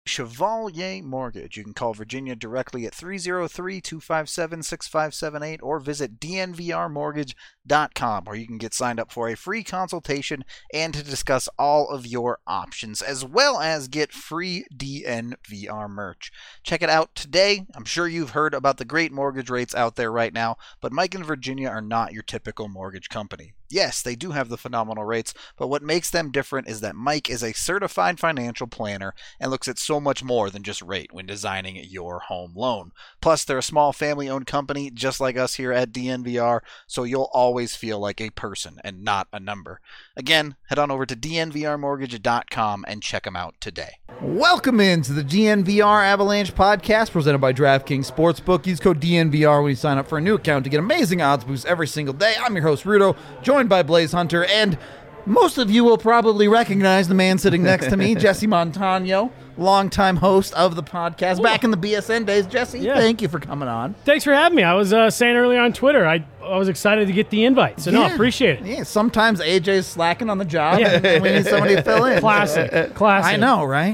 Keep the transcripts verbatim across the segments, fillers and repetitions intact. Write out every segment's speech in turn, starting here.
Chevalier Mortgage. You can call Virginia directly at three oh three, two five seven, six five seven eight or visit d n v r mortgage dot com, where you can get signed up for a free consultation and to discuss all of your options, as well as get free D N V R merch. Check it out today. I'm sure you've heard about the great mortgage rates out there right now, but Mike and Virginia are not your typical mortgage company. Yes, they do have the phenomenal rates, but what makes them different is that Mike is a certified financial planner and looks at so much more than just rate when designing your home loan. Plus, they're a small family-owned company just like us here at D N V R, so you'll always feel like a person and not a number. Again, head on over to d n v r mortgage dot com and check them out today. Welcome into the D N V R Avalanche podcast presented by DraftKings Sportsbook. Use code D N V R when you sign up for a new account to get amazing odds boosts every single day. I'm your host, Rudo, joined by Blaze Hunter, and most of you will probably recognize the man sitting next to me, Jesse Montano, longtime host of the podcast. Ooh. Back in the B S N days. Jesse, yeah. Thank you for coming on. Thanks for having me. I was uh, saying earlier on Twitter, I I was excited to get the invite, so yeah. no, appreciate it. Yeah, sometimes A J's slacking on the job, yeah. and we need somebody to fill in. Classic, classic. I know, right?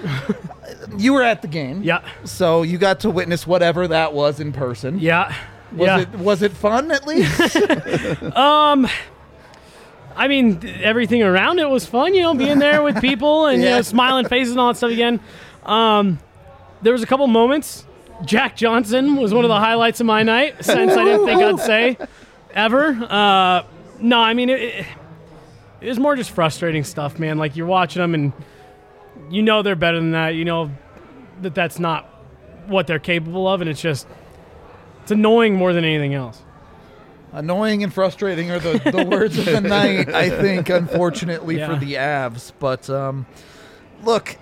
You were at the game. Yeah. So you got to witness whatever that was in person. Yeah. Was yeah. it was it fun at least? um I mean, everything around it was fun, you know, being there with people and, yeah. you know, smiling faces and all that stuff again. Um, there was a couple moments. Jack Johnson was one of the highlights of my night, since I didn't think I'd say ever. Uh, no, I mean, it, it, it was more just frustrating stuff, man. Like, you're watching them and you know they're better than that. You know that that's not what they're capable of, and it's just, it's annoying more than anything else. Annoying and frustrating are the, the words of the night, I think, unfortunately, yeah. for the Avs. But, um, look,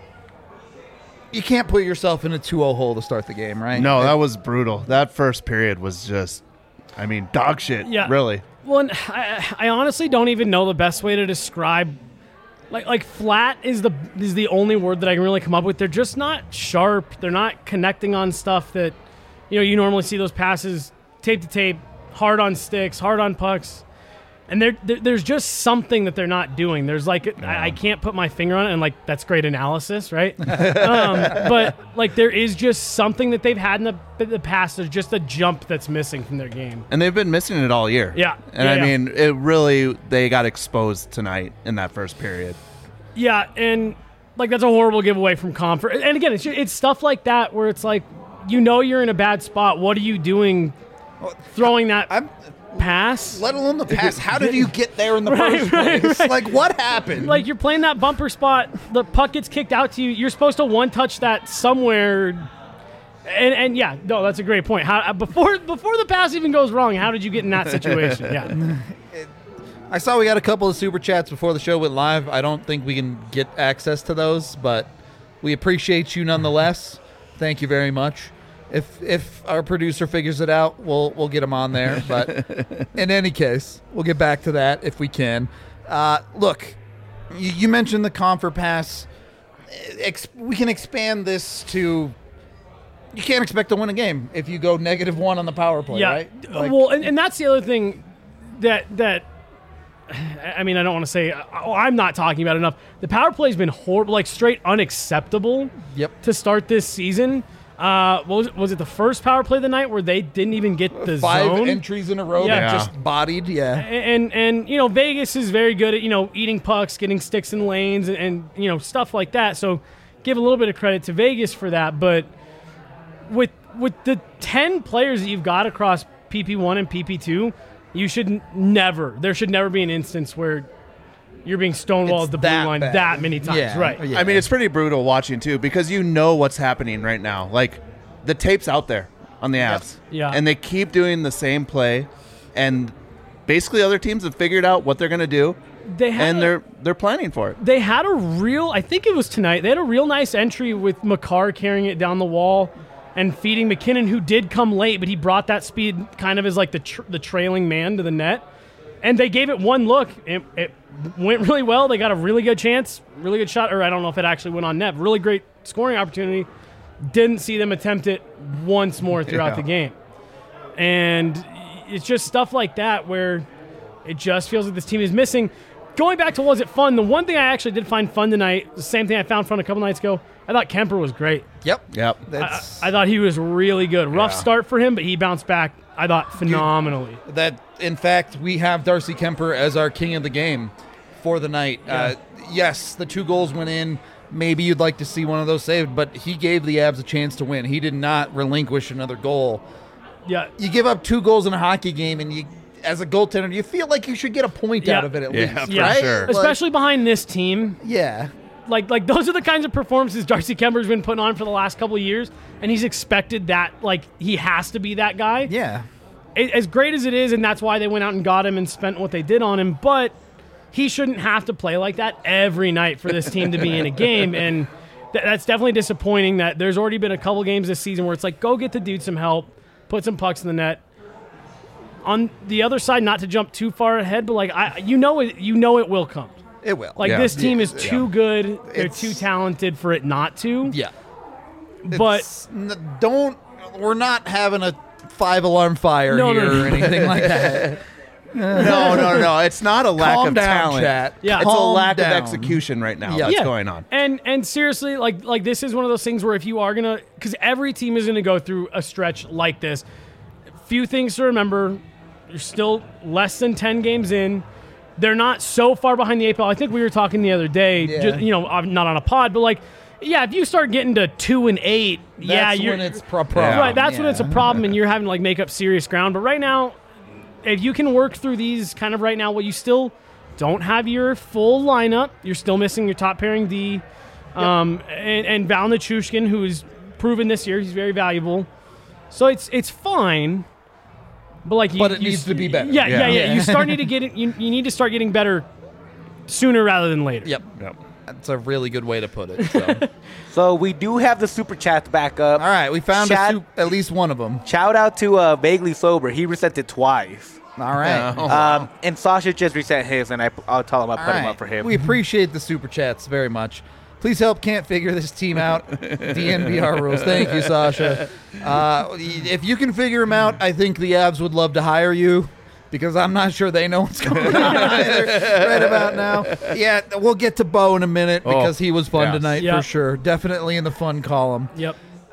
you can't put yourself in a two oh hole to start the game, right? No, that was brutal. That first period was just, I mean, dog shit, yeah. really. Well, and I, I honestly don't even know the best way to describe, like, like flat is the is the only word that I can really come up with. They're just not sharp. They're not connecting on stuff that, you know, you normally see those passes tape to tape, hard on sticks, hard on pucks, and there, there's just something that they're not doing. There's like, yeah. I, I can't put my finger on it, and like, that's great analysis, right? um, but like, there is just something that they've had in the, the past. There's just a jump that's missing from their game. And they've been missing it all year. Yeah. And yeah, I yeah. mean, it really, they got exposed tonight in that first period. Yeah, and like, that's a horrible giveaway from Comfort. And again, it's, it's stuff like that where it's like, you know you're in a bad spot. What are you doing throwing that I'm, pass? Let alone the pass. How did you get there in the right, first place? Right, right. Like, what happened? Like, you're playing that bumper spot. The puck gets kicked out to you. You're supposed to one-touch that somewhere. And, and yeah, no, that's a great point. How before before the pass even goes wrong, how did you get in that situation? Yeah. I saw we got a couple of super chats before the show went live. I don't think we can get access to those, but we appreciate you nonetheless. Thank you very much. If if our producer figures it out, we'll we'll get him on there. But in any case, we'll get back to that if we can. Uh, look, you, you mentioned the Comfort Pass. Ex- we can expand this to, you can't expect to win a game if you go negative one on the power play, yeah. right? Like, well, and, and that's the other thing that that. I mean, I don't want to say oh, I'm not talking about it enough. The power play has been horrible, like straight unacceptable. Yep. To start this season. Uh, what was it? Was it the first power play of the night where they didn't even get the Five zone? Five entries in a row, yeah. that just bodied, yeah. And, and, and, you know, Vegas is very good at, you know, eating pucks, getting sticks in lanes, and, and, you know, stuff like that. So give a little bit of credit to Vegas for that. But with with the ten players that you've got across P P one and P P two, you should n- never, there should never be an instance where you're being stonewalled at the blue line bad. that many times, yeah. right? Yeah. I mean, it's pretty brutal watching, too, because you know what's happening right now. Like, the tape's out there on the Avs. Yep. Yeah. And they keep doing the same play, and basically other teams have figured out what they're going to do, they had and a, they're they're planning for it. They had a real, I think it was tonight, they had a real nice entry with Makar carrying it down the wall and feeding McKinnon, who did come late, but he brought that speed kind of as like the tr- the trailing man to the net. And they gave it one look. It, it went really well. They got a really good chance, really good shot, or I don't know if it actually went on net. Really great scoring opportunity. Didn't see them attempt it once more throughout yeah. the game. And it's just stuff like that where it just feels like this team is missing. Going back to was it fun, the one thing I actually did find fun tonight, the same thing I found fun a couple nights ago, I thought Kemper was great. Yep. Yep. I, That's I thought he was really good. Rough Yeah. start for him, but he bounced back, I thought, phenomenally. that. In fact, we have Darcy Kemper as our king of the game for the night. Uh, yes, the two goals went in. Maybe you'd like to see one of those saved, but he gave the Avs a chance to win. He did not relinquish another goal. Yeah. You give up two goals in a hockey game, and you, as a goaltender, you feel like you should get a point Yeah. out of it at Yeah, least, for Yeah, right? sure. Like, especially behind this team. yeah. Like, like those are the kinds of performances Darcy Kemper's been putting on for the last couple of years, and he's expected that. Like, he has to be that guy. Yeah. A- As great as it is, and that's why they went out and got him and spent what they did on him. But he shouldn't have to play like that every night for this team to be in a game, and th- that's definitely disappointing. That there's already been a couple games this season where it's like, go get the dude some help, put some pucks in the net. On the other side, not to jump too far ahead, but like I, you know it, you know it will come. It will. Like Yeah. this team is Yeah. too good. They're It's- too talented for it not to. Yeah. But It's- n- don't. We're not having a five alarm fire No, no, here no. or anything like that. No, no, no. It's not a lack Calm of down, talent. chat. Yeah. It's Calm a lack down. of execution right now Yeah. that's yeah. going on. And and seriously, like like this is one of those things where if you are gonna, because every team is gonna go through a stretch like this. Few things to remember. You're still less than ten games in. They're not so far behind the eight ball. I think we were talking the other day. Yeah. Just, you know, uh, not on a pod, but like, yeah, if you start getting to two and eight, yeah, That's you're when it's pro- problem. Yeah. right. That's when Yeah. it's a problem, and you're having to like make up serious ground. But right now, if you can work through these kind of right now, well, you still don't have your full lineup. You're still missing your top pairing D, um, and, and Val Nichushkin, who's proven this year he's very valuable. So it's it's fine, but like, you, But it you needs s- to be better. Yeah, yeah, Yeah. yeah. You start need to get it. You, you need to start getting better sooner rather than later. Yep. Yep. That's a really good way to put it. So. So we do have the super chats back up. All right, we found a Chad- soup, at least one of them. Shout out to uh, Vaguely Sober. He resent it twice. All right. Um, and Sasha just resent his, and I, I'll tell him I All put him right. up for him. We appreciate the super chats very much. Please help Can't Figure this team out. D N V R rules. Thank you, Sasha. Uh, if you can figure them out, I think the Avs would love to hire you because I'm not sure they know what's going on either right about now. Yeah, we'll get to Bo in a minute Oh, because he was fun yes. tonight Yeah. for sure. Definitely in the fun column. Yep.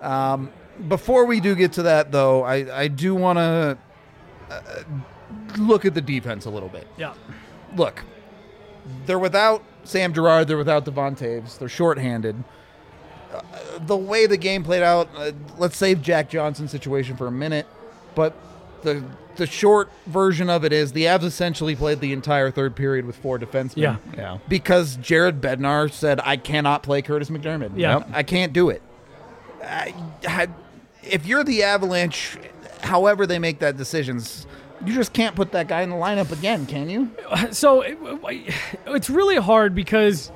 Before we do get to that, though, I, I do want to uh, look at the defense a little bit. Yeah. Look, they're without Sam Girard, they're without Devon Taves, they're shorthanded. Uh, the way the game played out, uh, let's save Jack Johnson's situation for a minute, but the the short version of it is the Avs essentially played the entire third period with four defensemen. Yeah. Yeah. Because Jared Bednar said, I cannot play Curtis McDermott. Yeah. Yep. I can't do it. I, I, if you're the Avalanche, however they make that decisions, you just can't put that guy in the lineup again, can you? So it, it's really hard because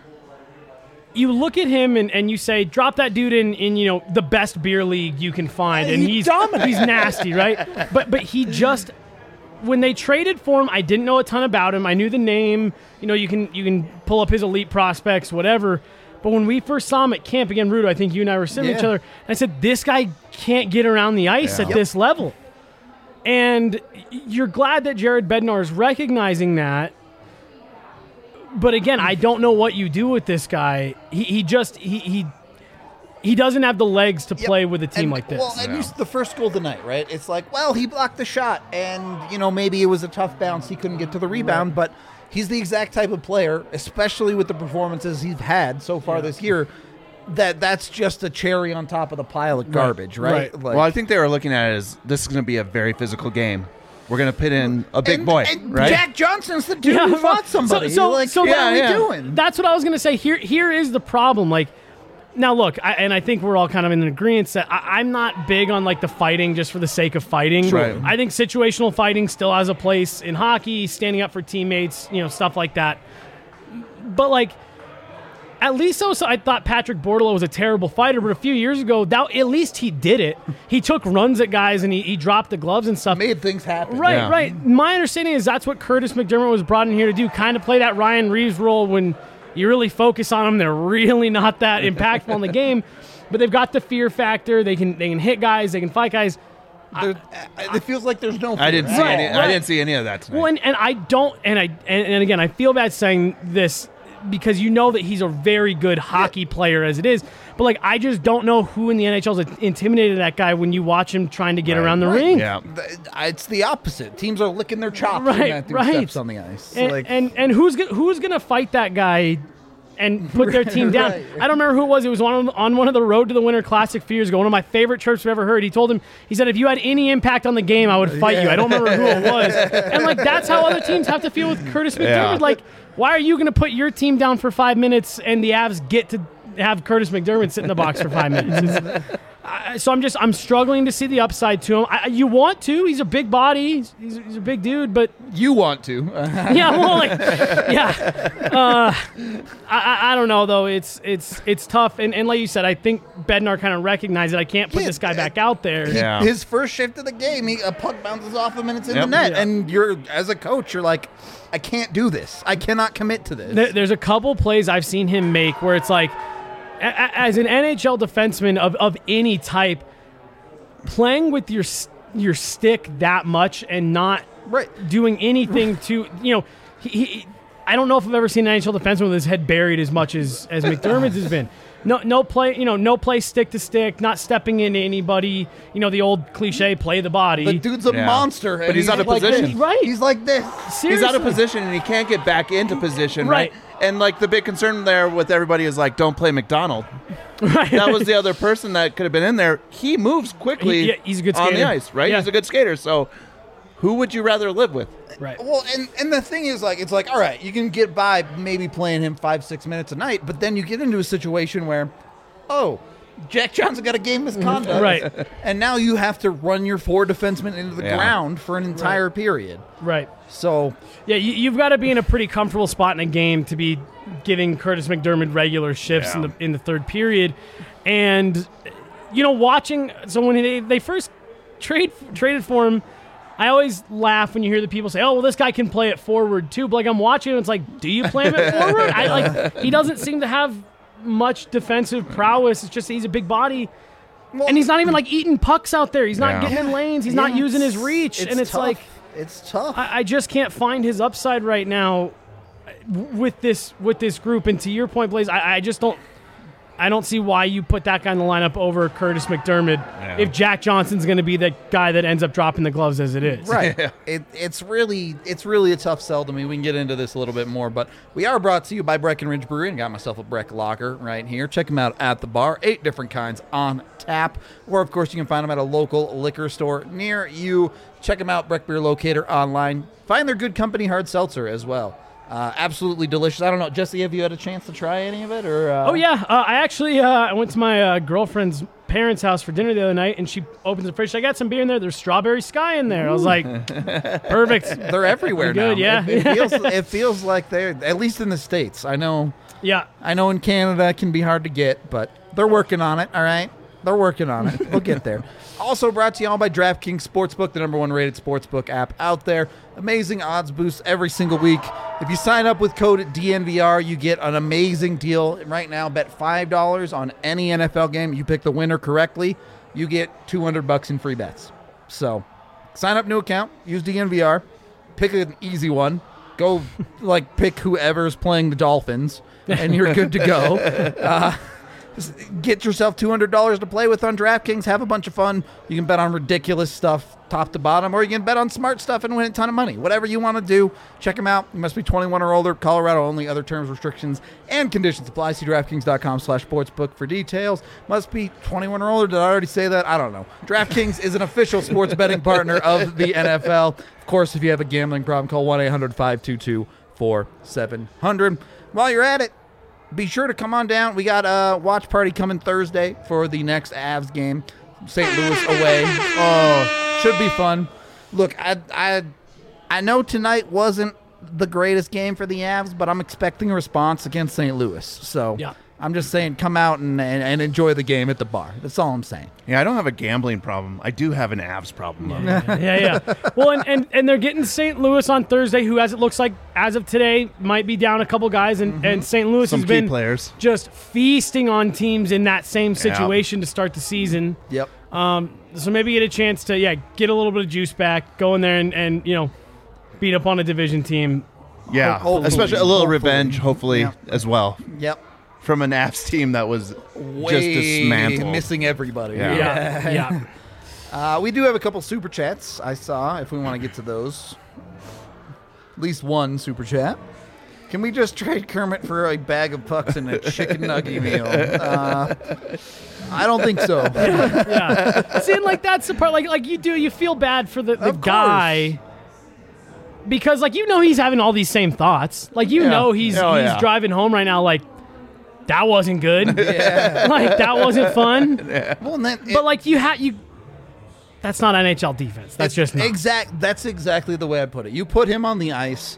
you look at him and, and you say, drop that dude in, in you know the best beer league you can find, and He he's dominates. he's nasty, right? But but he just when they traded for him, I didn't know a ton about him. I knew the name. You know, you can you can pull up his elite prospects, whatever. But when we first saw him at camp again, Rudo, I think you and I were sitting with each Yeah. other. And I said, this guy can't get around the ice Yeah. at this level. And you're glad that Jared Bednar is recognizing that. But again, I don't know what you do with this guy. He, he just he, he he doesn't have the legs to play with a team And- like this. Well, and you s- the first goal tonight, right? It's like, well, he blocked the shot, and you know maybe it was a tough bounce. He couldn't get to the rebound, but he's the exact type of player, especially with the performances he's had so far this year. That that's just a cherry on top of the pile of garbage, right? Right. Like- Well, I think they were looking at it as this is going to be a very physical game. We're going to put in a big and, boy, and right? Jack Johnson's the dude Yeah, who well, fought somebody. So, so, like, so what yeah, are we yeah. doing? That's what I was going to say. Here, here is the problem. Like, now look, I, and I think we're all kind of in agreement that I, I'm not big on like the fighting just for the sake of fighting. Right. I think situational fighting still has a place in hockey, standing up for teammates, you know, stuff like that. But like, at least also, I thought Patrick Bortolo was a terrible fighter, but a few years ago, that at least he did it. He took runs at guys and he, he dropped the gloves and stuff. Made things happen. Right, Yeah. right. My understanding is that's what Curtis McDermott was brought in here to do, kind of play that Ryan Reeves role when you really focus on them. They're really not that impactful in the game, but they've got the fear factor. They can they can hit guys. They can fight guys. There- it feels like there's no. I didn't see Right, any. right. I didn't see any of that tonight. Well, and, and I don't, and I and, and again, I feel bad saying this because you know that he's a very good hockey player as it is. But like, I just don't know who in the N H L is intimidated that guy when you watch him trying to get Right, around the right, ring. Yeah. Th- It's the opposite. Teams are licking their chops Right, when Matthews right. steps on the ice. And, like, and and who's go- who's gonna fight that guy and put their team down? Right. I don't remember who it was. It was on on one of the Road to the Winter Classic a few years ago. One of my favorite chirps I've ever heard. He told him, he said, if you had any impact on the game, I would fight you. I don't remember who it was. And like, that's how other teams have to feel with Curtis McDermott. Yeah. Like, why are you gonna put your team down for five minutes and the Avs get to have Curtis McDermott sit in the box for five minutes? It's- I, so I'm just I'm struggling to see the upside to him. I, you want to? He's a big body. He's, he's, he's a big dude, but you want to. yeah, well, like, yeah. Uh, I, I I don't know though. It's it's it's tough, and, and like you said, I think Bednar kind of recognized that I can't put Yeah, this guy uh, back out there. Yeah. His first shift of the game, he, a puck bounces off him and it's in Yep. the net. Yeah. And you're, as a coach, you're like, I can't do this. I cannot commit to this. There- There's a couple plays I've seen him make where it's like, a- a- as an N H L defenseman of, of any type, playing with your s- your stick that much and not Right. doing anything to, you know, he, he, I don't know if I've ever seen an N H L defenseman with his head buried as much as, as McDermott's has been. No, no play, you know, no play stick to stick, not stepping into anybody. You know, the old cliche, play the body. The dude's a Yeah. monster. and But he's out of like position. this. Right. He's like this. Seriously. He's out of position and he can't get back into position, right? Right. And like the big concern there with everybody is like, don't play McDonald. Right. That was the other person that could have been in there. He moves quickly He- yeah, he's a good on the skater. ice, right? Yeah. He's a good skater. So who would you rather live with? Right. Well, and, and the thing is, like, it's like, all right, you can get by maybe playing him five, six minutes a night, but then you get into a situation where, oh, Jack Johnson got a game misconduct. Right. And now you have to run your four defensemen into the Yeah. ground for an entire period. Right. So, Yeah, you, you've got to be in a pretty comfortable spot in a game to be giving Curtis McDermott regular shifts in Yeah. the in the third period, and you know, watching. So when they, they first trade traded for him, I always laugh when you hear the people say, "Oh, well, this guy can play it forward too." But like I'm watching him, it's like, do you play him at forward? I like he doesn't seem to have much defensive prowess. It's just he's a big body. And he's not even like eating pucks out there. He's not Yeah. getting in lanes. He's not yeah, using his it's- reach. and it's tough. like, it's tough. I, I just can't find his upside right now w- with this with this group. And to your point, Blaze, I, I just don't I don't see why you put that guy in the lineup over Curtis McDermott Yeah. if Jack Johnson's going to be the guy that ends up dropping the gloves as it is. Right. It, it's really it's really a tough sell to me. We can get into this a little bit more, but we are brought to you by Breckenridge Brewery, and got myself a Breck Lager right here. Check them out at the bar. Eight different kinds on tap. Or, of course, you can find them at a local liquor store near you. Check them out, Breck Beer Locator online. Find their Good Company hard seltzer as well. Uh, absolutely delicious. I don't know, Jesse, have you had a chance to try any of it? Or uh... Oh yeah, uh, I actually uh, I went to my uh, girlfriend's parents' house for dinner the other night, and she opens the fridge. I got some beer in there. There's Strawberry Sky in there. I was like, perfect. They're everywhere Good, now. yeah. It, it feels it feels like they're, at least in the States. I know Yeah. I know in Canada it can be hard to get, but they're working on it, all right? They're working on it. We'll get there. Also brought to you all by DraftKings Sportsbook, the number one rated sportsbook app out there. Amazing odds boosts every single week. If you sign up with code D N V R, you get an amazing deal. Right now, bet five dollars on any N F L game. You pick the winner correctly, you get two hundred bucks in free bets. So sign up, new account, use D N V R, pick an easy one. Go, like, pick whoever's playing the Dolphins, and you're good to go. Uh, Get yourself two hundred dollars to play with on DraftKings. Have a bunch of fun. You can bet on ridiculous stuff top to bottom, or you can bet on smart stuff and win a ton of money. Whatever you want to do, check them out. You must be twenty-one or older. Colorado only. Other terms, restrictions, and conditions apply. See DraftKings.com slash sportsbook for details. Must be twenty-one or older. Did I already say that? I don't know. DraftKings is an official sports betting partner of the N F L. Of course, if you have a gambling problem, call one eight hundred five two two four seven zero zero. While you're at it, be sure to come on down. We got a watch party coming Thursday for the next Avs game. Saint Louis away. Oh, should be fun. Look, I, I, I know tonight wasn't the greatest game for the Avs, but I'm expecting a response against Saint Louis. So Yeah. I'm just saying, come out and, and, and enjoy the game at the bar. That's all I'm saying. Yeah, I don't have a gambling problem. I do have an Avs problem, though. yeah, yeah. Well, and, and, and they're getting Saint Louis on Thursday, who, as it looks like, as of today, might be down a couple guys, and, and Saint Louis Some has key been players. just feasting on teams in that same situation to start the season. Yep. Um, so maybe get a chance to, yeah, get a little bit of juice back, go in there and, and you know, beat up on a division team. Yeah, Hopefully. especially a little Hopefully. revenge, hopefully, Yeah. as well. Yep. From an Avs team that was Way just dismantled. missing everybody. Yeah. Yeah, yeah. Uh, we do have a couple super chats I saw, if we want to get to those. At least one super chat. Can we just trade Kermit for a bag of pucks and a chicken nugget meal? Uh, I don't think so. yeah. See, and like that's the part. Like, like you do, you feel bad for the, the Of course. guy because, like, you know, he's having all these same thoughts. Like, you Yeah. know, he's Oh, he's yeah. driving home right now. Like, that wasn't good. Yeah. Like, that wasn't fun. Well, and that, But like, you had you. That's not N H L defense. That's just not. exact. That's exactly the way I put it. You put him on the ice,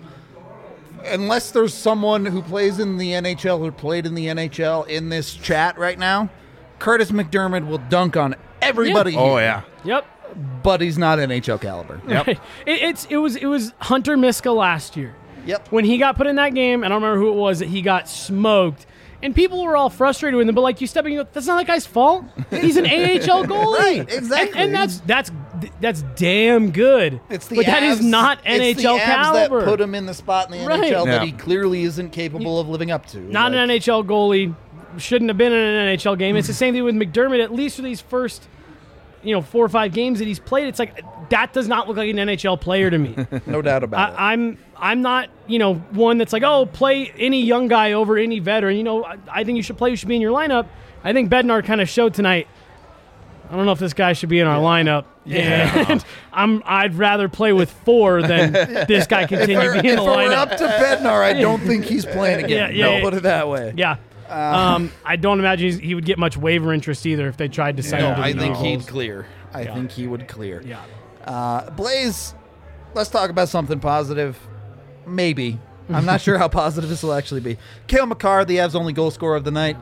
unless there's someone who plays in the N H L or played in the N H L in this chat right now. Curtis McDermott will dunk on everybody. Yeah. Oh, here, yeah. Yep. but he's not N H L caliber. Yep. It, it's it was it was Hunter Miska last year. Yep. When he got put in that game, I don't remember who it was that he got smoked. And people were all frustrated with him, but like you step in, you go, that's not that guy's fault. He's an A H L goalie, Right, exactly. And, and that's that's that's damn good. It's the but that is Avs- not N H L it's the Avs caliber. that put him in the spot in the Right. N H L that Yeah. he clearly isn't capable of living up to. not Like, an N H L goalie. Shouldn't have been in an N H L game. It's the same thing with McDermott. At least for these first, you know, four or five games that he's played, it's like that does not look like an N H L player to me. no doubt about it. I, I'm I'm not, you know, one that's like, oh, play any young guy over any veteran. You know, I, I think you should play. You should be in your lineup. I think Bednar kind of showed tonight. I don't know if this guy should be in our lineup. Yeah. And I'm I'd rather play with four than this guy continue If being in the we're lineup. up to Bednar, I don't think he's playing again. Yeah, yeah, no, yeah. put it that way. Yeah. um, I don't imagine he's, he would get much waiver interest either if they tried to sign No, him. to the I think Eagles. he'd clear. I Yeah. think he would clear. Yeah. Uh, Blaze, let's talk about something positive. Maybe. I'm not sure how positive this will actually be. Cale Makar, the Avs' only goal scorer of the night.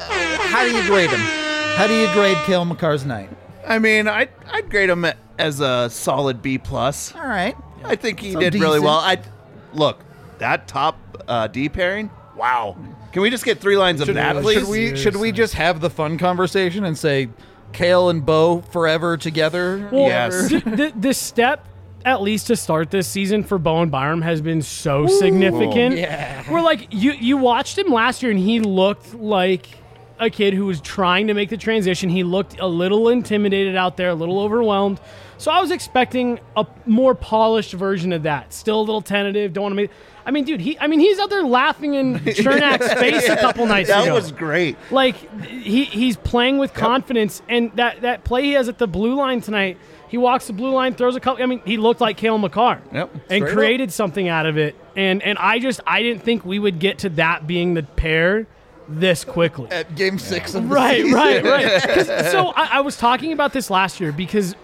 How do you grade him? How do you grade Cale Makar's night? I mean, I'd, I'd grade him as a solid B plus. All right. I think he So did really decent. well. I look that top uh, D pairing. Wow. Can we just get three lines of Should, that, should please? we should we just have the fun conversation and say Cale and Bo forever together? Well, Yes. th- th- this step, at least to start this season for Bowen Byram, has been so significant. yeah. We're like, you you watched him last year, and he looked like a kid who was trying to make the transition. He looked a little intimidated out there, a little overwhelmed. So I was expecting a more polished version of that. Still a little tentative. Don't want to make. I mean, dude, he. I mean, he's out there laughing in Chernak's face a couple nights that ago. was great. Like he he's playing with confidence, and that, that play he has at the blue line tonight, he walks the blue line, throws a couple. I mean, he looked like Cale Makar, Yep. and Straight created something out of it. And and I just I didn't think we would get to that being the pair this quickly. At game six of the Right, season. right, right. 'Cause- So I, I was talking about this last year because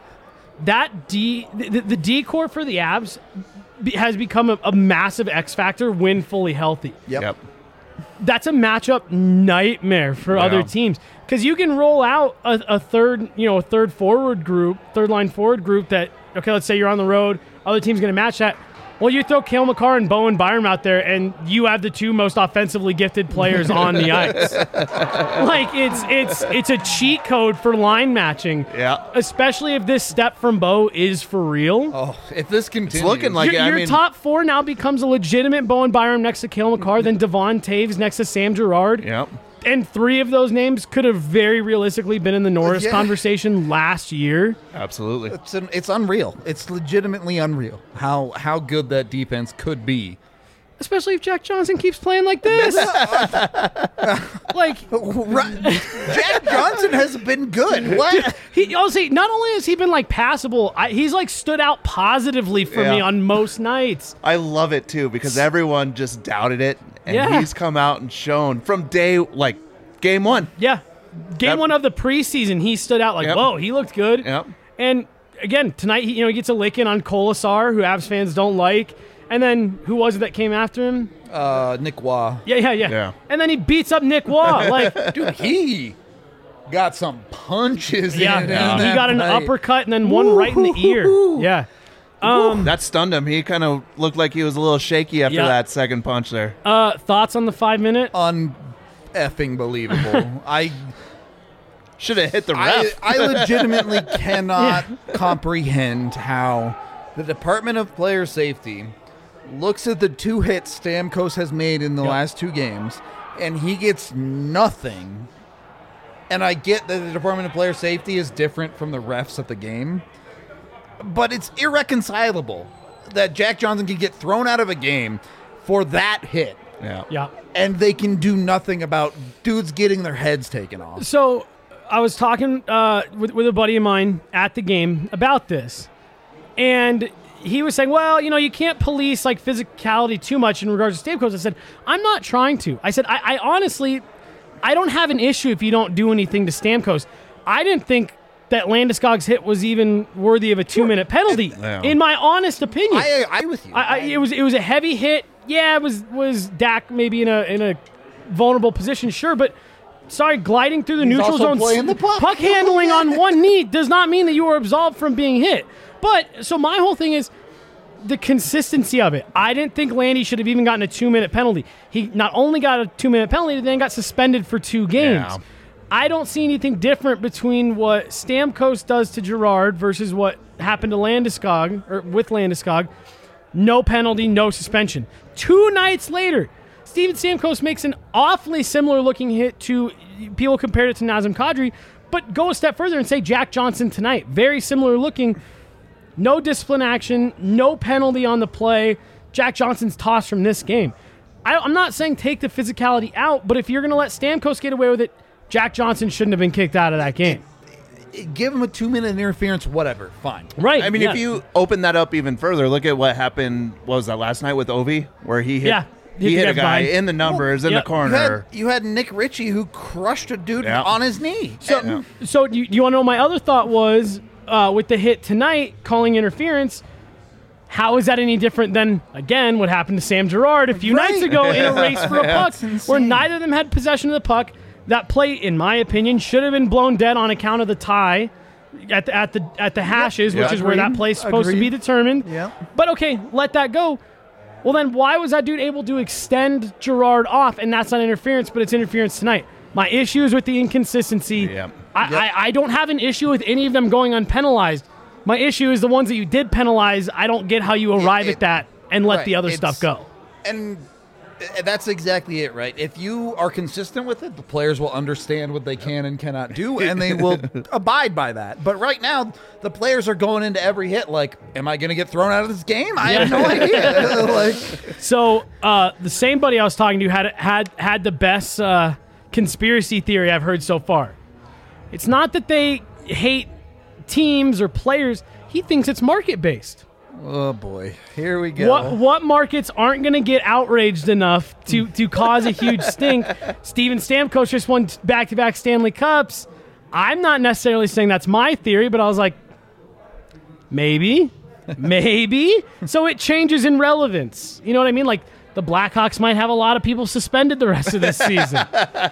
that D the, the D core for the Avs be, has become a, a massive X factor when fully healthy. Yep. Yep. That's a matchup nightmare for other Yeah. teams because you can roll out a, a third, you know, a third forward group, third line forward group that, okay, let's say you're on the road, other team's going to match that. Well, you throw Cale Makar and Bowen Byram out there, and you have the two most offensively gifted players on the ice. Like it's it's it's a cheat code for line matching. Yeah. Especially if this step from Bo is for real. Oh, if this continues, It's looking like your it. I your mean, top four now becomes a legitimate Bowen Byram next to Cale Makar, then Devon Taves next to Sam Girard. Yep. And three of those names could have very realistically been in the Norris Yeah. conversation last year. Absolutely. it's an, it's unreal. It's legitimately unreal how how good that defense could be. Especially if Jack Johnson keeps playing like this. Like, Right. Jack Johnson has been good. What? he honestly, not only has he been like passable, I, he's like stood out positively for me Yeah. on most nights. I love it too because everyone just doubted it, and Yeah. he's come out and shown from day like game one. Yeah. Game Yep. one of the preseason, he stood out like, Yep. whoa, he looked good. Yep. And again, tonight, he, you know, he gets a lick in on Kolasar, who Avs fans don't like. And then who was it that came after him? Uh, Nick Waugh. Yeah, yeah, yeah. Yeah. And then he beats up Nick Waugh. Like, Dude, he got some punches yeah, in. he, in he that got an fight. uppercut and then one right in the ear. Yeah. Um, That stunned him. He kind of looked like he was a little shaky after Yeah. that second punch there. uh, thoughts on the five minute? Un effing believable. I Should have hit the I, ref. I legitimately cannot comprehend how the Department of Player Safety looks at the two hits Stamkos has made in the Yep. last two games, and he gets nothing. And I get that the Department of Player Safety is different from the refs at the game, but it's irreconcilable that Jack Johnson can get thrown out of a game for that hit, Yeah. Yeah. and they can do nothing about dudes getting their heads taken off. So I was talking uh, with, with a buddy of mine at the game about this, and he was saying, well, you know, you can't police like physicality too much in regards to Stamkos. I said, I'm not trying to. I said, I, I honestly, I don't have an issue if you don't do anything to Stamkos. I didn't think that Landeskog's hit was even worthy of a two-minute penalty, Yeah. in my honest opinion. I I with you. I, I, it was it was a heavy hit. Yeah, it was was Dak maybe in a in a vulnerable position, sure, but sorry, gliding through the He's neutral also zone, playing the puck. handling on one knee does not mean that you are absolved from being hit. But so my whole thing is the consistency of it. I didn't think Landy should have even gotten a two-minute penalty. He not only got a two-minute penalty, but then got suspended for two games. Yeah. I don't see anything different between what Stamkos does to Girard versus what happened to Landeskog, or with Landeskog. No penalty, no suspension. Two nights later, Steven Stamkos makes an awfully similar-looking hit to, people compared it to Nazem Kadri, but go a step further and say Jack Johnson tonight. Very similar-looking. No discipline action, no penalty on the play. Jack Johnson's tossed from this game. I, I'm not saying take the physicality out, but if you're going to let Stamkos get away with it, Jack Johnson shouldn't have been kicked out of that game. Give him a two-minute interference, whatever, fine. Right. I mean, yeah. if you open that up even further, look at what happened. What was that last night with Ovi, where he hit? Yeah, he hit hit the a guy guy behind. in the numbers in yeah. the You corner. had, you had Nick Ritchie who crushed a dude Yeah. on his knee. So, And- so you, you want to know my other thought was uh, with the hit tonight, calling interference. How is that any different than, again, what happened to Sam Girard a few Right. nights ago in a race for a puck That's where insane. neither of them had possession of the puck? That play, in my opinion, should have been blown dead on account of the tie at the at the at the hashes, Yep. which is where that Agreed. play's supposed to be Agreed. determined. Yep. But okay, let that go. Well, then why was that dude able to extend Girard off, and that's not interference, but it's interference tonight? My issue is with the inconsistency. Yep. I, I, I don't have an issue with any of them going unpenalized. My issue is the ones that you did penalize. I don't get how you arrive it- at that and let right, the other it's- stuff go. And uh, that's exactly it, right? If you are consistent with it, the players will understand what they can and cannot do, and they will abide by that. But right now, the players are going into every hit like, am I going to get thrown out of this game? I have no idea. like, So uh, the same buddy I was talking to had had had the best uh, conspiracy theory I've heard so far. It's not that they hate teams or players. He thinks it's market based. oh boy, here we go. What what markets aren't going to get outraged enough to to cause a huge stink? Steven Stamkos just won back to back Stanley Cups. I'm not necessarily saying that's my theory, but I was like, maybe, maybe. So it changes in relevance. You know what I mean? Like the Blackhawks might have a lot of people suspended the rest of this season.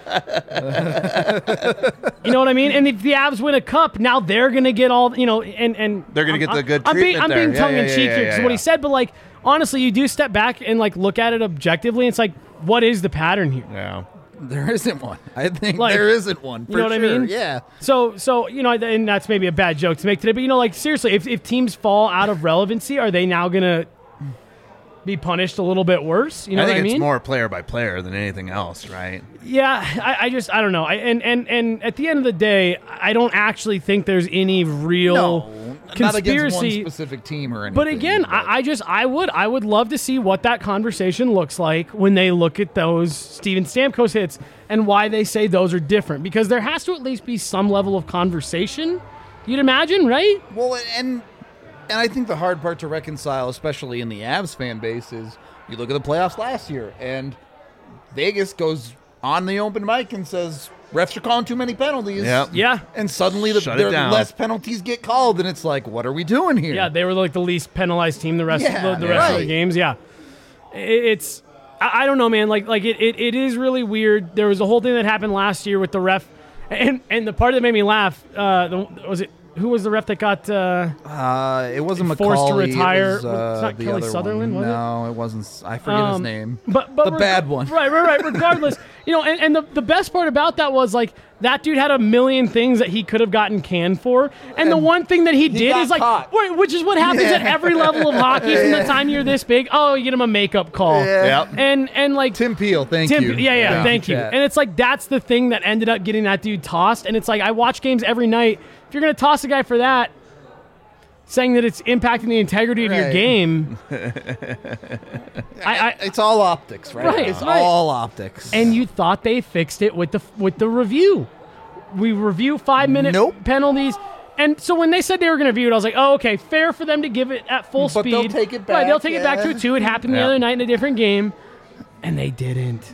You know what I mean? And if the Avs win a cup, now they're going to get all, you know, and and They're gonna I'm- get the good I'm being, treatment I'm there. being Yeah, tongue in yeah, cheek yeah, here yeah, because what he yeah. said, but like honestly, you do step back and like look at it objectively. It's like, what is the pattern here? Yeah. There isn't one. I think Like, there isn't one. For you know what I sure. mean? Yeah. So, so you know, and that's maybe a bad joke to make today, but you know, like seriously, if, if teams fall out of relevancy, are they now gonna be punished a little bit worse? You know I think what I it's mean? more player by player than anything else, right? Yeah, I, I just I don't know. I, and and and at the end of the day, I don't actually think there's any real No, not against one conspiracy. specific team or anything. But again, I, I just I would I would love to see what that conversation looks like when they look at those Steven Stamkos hits and why they say those are different, because there has to at least be some level of conversation. You'd imagine, right? Well, and and I think the hard part to reconcile, especially in the Avs fan base, is you look at the playoffs last year, and Vegas goes on the open mic and says refs are calling too many penalties. Yep. Yeah. And suddenly the Shut it there down. less penalties get called, and it's like, what are we doing here? Yeah, they were like the least penalized team the rest Yeah, of the, the rest of the right. games. Yeah, it, it's I, I don't know, man. Like like it, it it is really weird. There was a whole thing that happened last year with the ref, and and the part that made me laugh uh, the, was it who was the ref that got uh, Uh, it wasn't McCauley. Forced to it retire. was, uh, It's not the Kelly other Sutherland, one. was it? No, it wasn't. I forget his Um, name. But but The reg- bad one. Right, right, right. Regardless, you know, and, and the, the best part about that was like that dude had a million things that he could have gotten canned for, and, and the one thing that he, he did is like, wh- which is what happens yeah. at every level of hockey from the time you're this big. Oh, you get him a makeup call. Yeah. Yep. And and like Tim Peel, thank Tim, you. Yeah, yeah, thank, thank you. you. And it's like that's the thing that ended up getting that dude tossed. And it's like I watch games every night. If you're gonna toss a guy for that, saying that it's impacting the integrity of right. your game, I, I, it's all optics, right? Right, It's right. all optics. And you thought they fixed it with the with the review. We review five minute nope. penalties. And so when they said they were going to review it, I was like, oh, okay, fair for them to give it at full but speed. They'll take it back. Right, they'll take yeah. it back to a two. It happened yeah. the other night in a different game, and they didn't.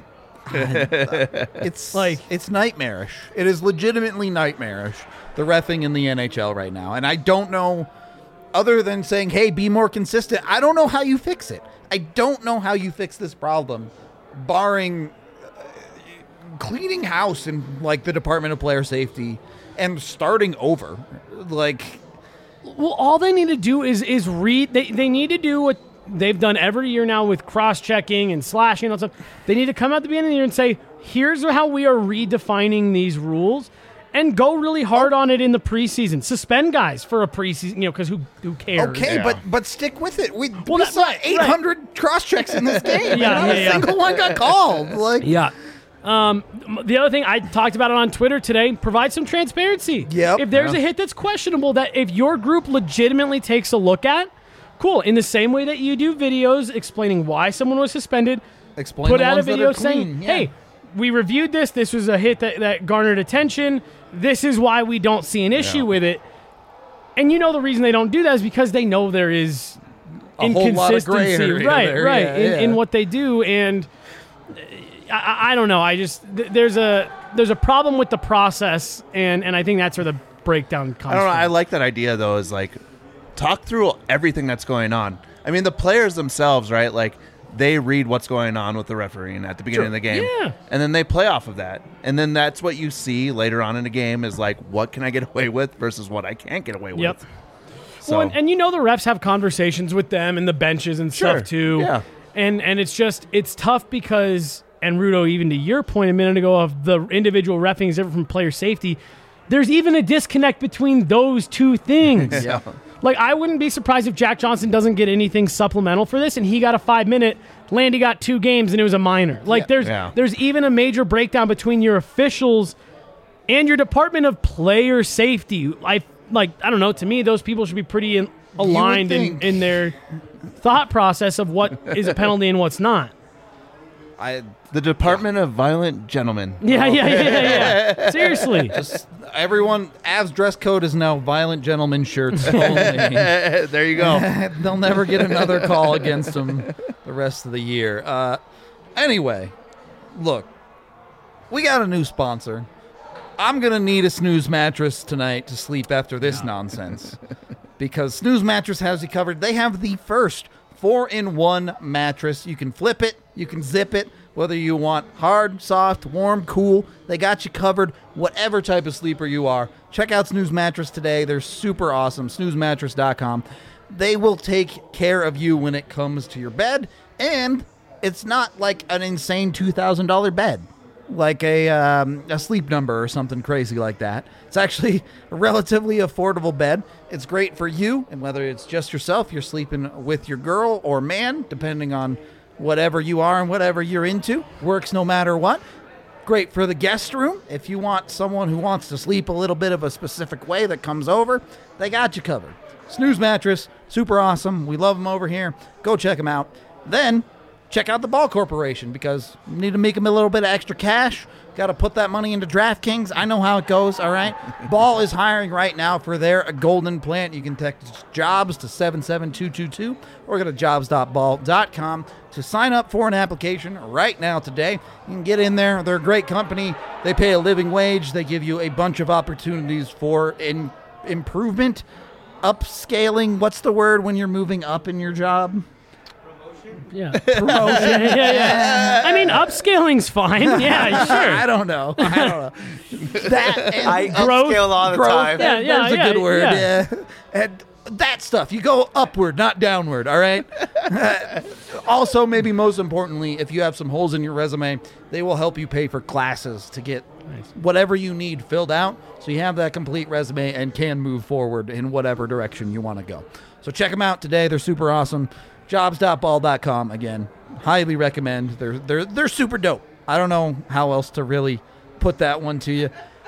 It's like it's nightmarish. It is legitimately nightmarish, the reffing in the N H L right now. And I don't know, other than saying, hey, be more consistent, I don't know how you fix it. I don't know how you fix this problem, barring uh, cleaning house in like the Department of Player Safety and starting over. Like, well, all they need to do is is read. They they need to do what they've done every year now with cross-checking and slashing and all that stuff. They need to come out the beginning of the year and say, here's how we are redefining these rules, and go really hard on it in the preseason. Suspend guys for a preseason, you know, because who who cares? okay, Yeah. but but stick with it. We, Well, we that- saw right, eight hundred right. cross-checks in this game. Yeah, and not yeah, a yeah. single one got called. Like, Yeah. Um, the other thing, I talked about it on Twitter today, provide some transparency. Yep. If there's Yeah. a hit that's questionable that if your group legitimately takes a look at, cool. In the same way that you do videos explaining why someone was suspended, explain put the out a ones that video are clean. saying, Yeah. hey, we reviewed this. This was a hit that, that garnered attention. This is why we don't see an issue Yeah. with it. And you know the reason they don't do that is because they know there is A whole lot of gray inconsistency, area right, there, right, yeah, in, yeah. in what they do. And I- I, I don't know. I just th- there's a there's a problem with the process, and, and I think that's where the breakdown comes I don't know. from. I like that idea though. Is like talk through everything that's going on. I mean, the players themselves, right? Like they read what's going on with the refereeing at the beginning Sure. of the game, Yeah. and then they play off of that. And then that's what you see later on in the game is like, what can I get away with versus what I can't get away Yep. with. So Well, and, and you know the refs have conversations with them and the benches and Sure. stuff too. Yeah. And and it's just it's tough because, and Rudo, even to your point a minute ago of the individual reffing is different from player safety, there's even a disconnect between those two things. yeah. Like, I wouldn't be surprised if Jack Johnson doesn't get anything supplemental for this, and he got a five-minute. Landy got two games, and it was a minor. Like, Yeah. there's Yeah. there's even a major breakdown between your officials and your Department of Player Safety. I like, I don't know. To me, those people should be pretty in, aligned in, think. in their thought process of what is a penalty and what's not. I The Department of Violent Gentlemen. Yeah, yeah, yeah, yeah. yeah. Seriously. just everyone. Avs dress code is now violent gentleman shirts only. There you go. They'll never get another call against them the rest of the year. Uh, anyway, look, we got a new sponsor. I'm going to need a snooze mattress tonight to sleep after this nonsense. Because Snooze Mattress has you covered. They have the first four-in-one mattress. You can flip it, you can zip it, whether you want hard, soft, warm, cool. They got you covered, whatever type of sleeper you are. Check out Snooze Mattress today. They're super awesome. snooze mattress dot com. They will take care of you when it comes to your bed, and it's not like an insane two thousand dollars bed, like a um, a Sleep Number or something crazy like that. It's actually a relatively affordable bed. It's great for you, and whether it's just yourself, you're sleeping with your girl or man, depending on whatever you are and whatever you're into. Works no matter what. Great for the guest room. If you want someone who wants to sleep a little bit of a specific way that comes over, they got you covered. Snooze Mattress, super awesome. We love them over here. Go check them out. Then check out the Ball Corporation, because you need to make them a little bit of extra cash. Got to put that money into DraftKings. I know how it goes, all right? Ball is hiring right now for their golden plant. You can text JOBS to seven seven two two two or go to jobs dot ball dot com to sign up for an application right now today. You can get in there. They're a great company. They pay a living wage. They give you a bunch of opportunities for in- improvement, upscaling. What's the word when you're moving up in your job? Yeah. Promotion. yeah, yeah, yeah. I mean, upscaling's fine. Yeah, sure. I don't know. I don't know. That and I Growth- upscale all the growth, time. Yeah, yeah, there's a yeah, good word. yeah. Yeah. And that stuff. You go upward, not downward, all right? Also, maybe most importantly, if you have some holes in your resume, they will help you pay for classes to get whatever you need filled out, so you have that complete resume and can move forward in whatever direction you want to go. So check them out today. They're super awesome. jobs dot ball dot com, again. Highly recommend. They're they're they're super dope. I don't know how else to really put that one to you.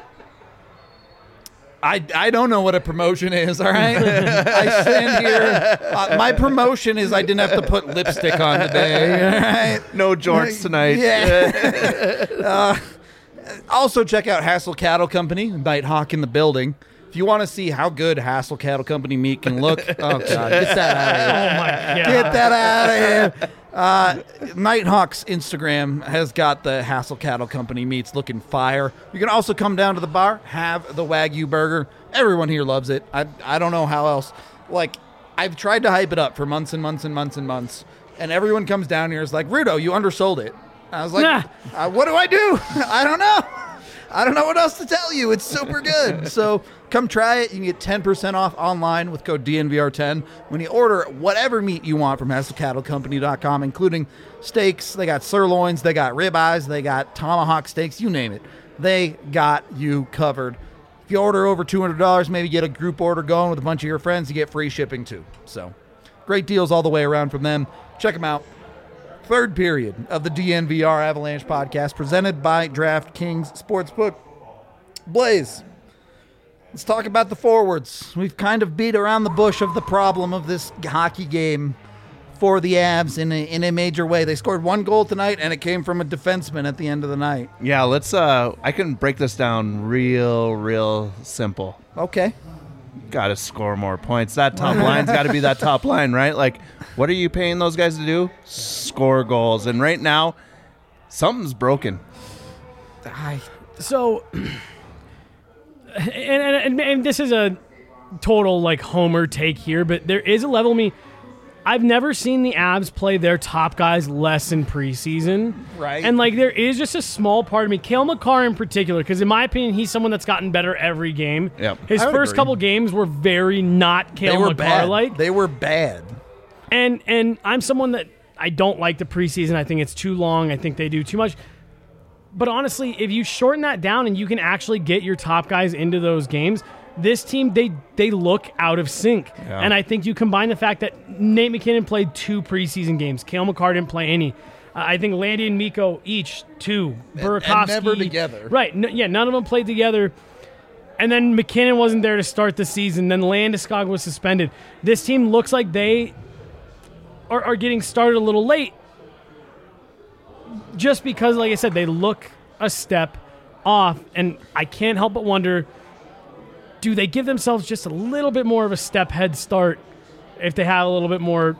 I, I don't know what a promotion is, all right? I stand here. Uh, my promotion is I didn't have to put lipstick on today, all right? No jorts tonight. Yeah. uh, also, check out Hassel Cattle Company, Nighthawk in the building. If you want to see how good Hassel Cattle Company meat can look, oh, God, get that out of here. Oh, my God. Get that out of here. Uh, Nighthawk's Instagram has got the Hassel Cattle Company meats looking fire. You can also come down to the bar, have the Wagyu burger. Everyone here loves it. I I don't know how else. Like, I've tried to hype it up for months and months and months and months, and everyone comes down here and is like, Rudo, you undersold it. I was like, Nah. uh, what do I do? I don't know. I don't know what else to tell you. It's super good. So come try it. You can get ten percent off online with code D N V R ten when you order whatever meat you want from hassel cattle company dot com, including steaks. They got sirloins. They got ribeyes. They got tomahawk steaks. You name it. They got you covered. If you order over two hundred dollars, maybe get a group order going with a bunch of your friends, you get free shipping too. So great deals all the way around from them. Check them out. Third period of the D N V R Avalanche podcast presented by DraftKings Sportsbook. Blaze, let's talk about the forwards. We've kind of beat around the bush of the problem of this hockey game for the Avs in a, in a major way. They scored one goal tonight, and it came from a defenseman at the end of the night. Yeah, let's. Uh, I can break this down real, real simple. Okay. Got to score more points. That top line's got to be that top line, right? Like, what are you paying those guys to do? Score goals. And right now, something's broken. I, So, and, and, and this is a total, like, homer take here, but there is a level of me. I've never seen the Avs play their top guys less in preseason. Right. And, like, there is just a small part of me, Cale Makar in particular, because in my opinion, he's someone that's gotten better every game. Yep. His I would first agree. couple games were very not they Cale were Makar-like. bad. They were bad. And and I'm someone that I don't like the preseason. I think it's too long. I think they do too much. But honestly, if you shorten that down and you can actually get your top guys into those games, this team, they they look out of sync. Yeah. And I think you combine the fact that Nate McKinnon played two preseason games. Cale Makar didn't play any. Uh, I think Landy and Mikko each two. Burakovsky. and never together. Right. No, yeah, none of them played together. And then McKinnon wasn't there to start the season. Then Landeskog was suspended. This team looks like they are, are getting started a little late just because, like I said, they look a step off. And I can't help but wonder, do they give themselves just a little bit more of a step head start if they have a little bit more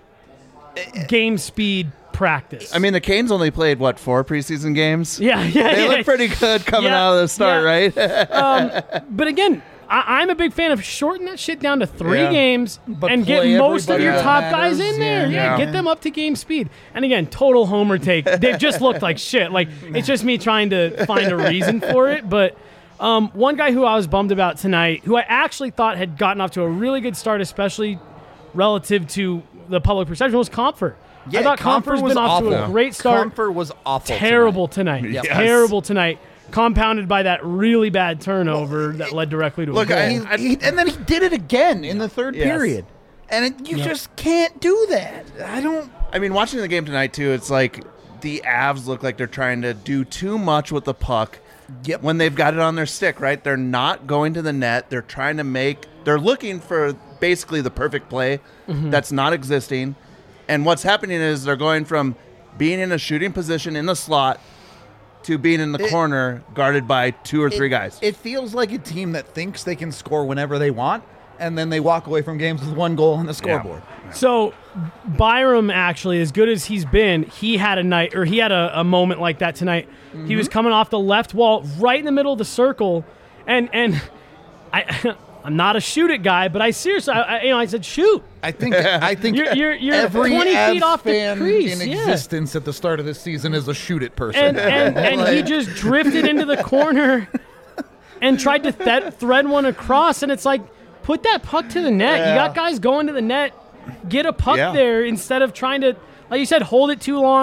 game speed practice? I mean, the Canes only played, what, four preseason games? yeah, yeah, They yeah. look pretty good coming Yeah, out of the start, yeah. right? Um, but again, I, I'm a big fan of shorten that shit down to three Yeah. games But and get play most of everybody your that top guys matters. in there. Yeah, Yeah. get them up to game speed. And again, total homer take. They've just looked like shit. Like, it's just me trying to find a reason for it. But um, one guy who I was bummed about tonight, who I actually thought had gotten off to a really good start, especially relative to the public perception, was Comfort. I thought Comfort's was been off awful. to a great start. Comfort was awful. Terrible tonight. Yes. Terrible tonight. Compounded by that really bad turnover that led directly to Look, a goal. I- He, he, and then he did it again in the third Yes. period. And it, you Yep. just can't do that. I don't. I mean, watching the game tonight, too, it's like the Avs look like they're trying to do too much with the puck Yep. when they've got it on their stick, right? They're not going to the net. They're trying to make – they're looking for basically the perfect play that's not existing. And what's happening is they're going from being in a shooting position in the slot to being in the It- corner guarded by two or three it, guys. It feels like a team that thinks they can score whenever they want, and then they walk away from games with one goal on the scoreboard. So Byram, actually, as good as he's been, he had a night, or he had a, a moment like that tonight. Mm-hmm. He was coming off the left wall, right in the middle of the circle, and and I, I'm not a shoot it guy, but I seriously, I, I, you know, I said shoot. I think I think You're- you're- you're every twenty Avs feet off the fan crease, in yeah. existence at the start of this season is a shoot it person. And and, and he just drifted into the corner and tried to th- thread one across, and it's like, put that puck to the net. You got guys going to the net. Get a puck Yeah. there instead of trying to, like you said, hold it too long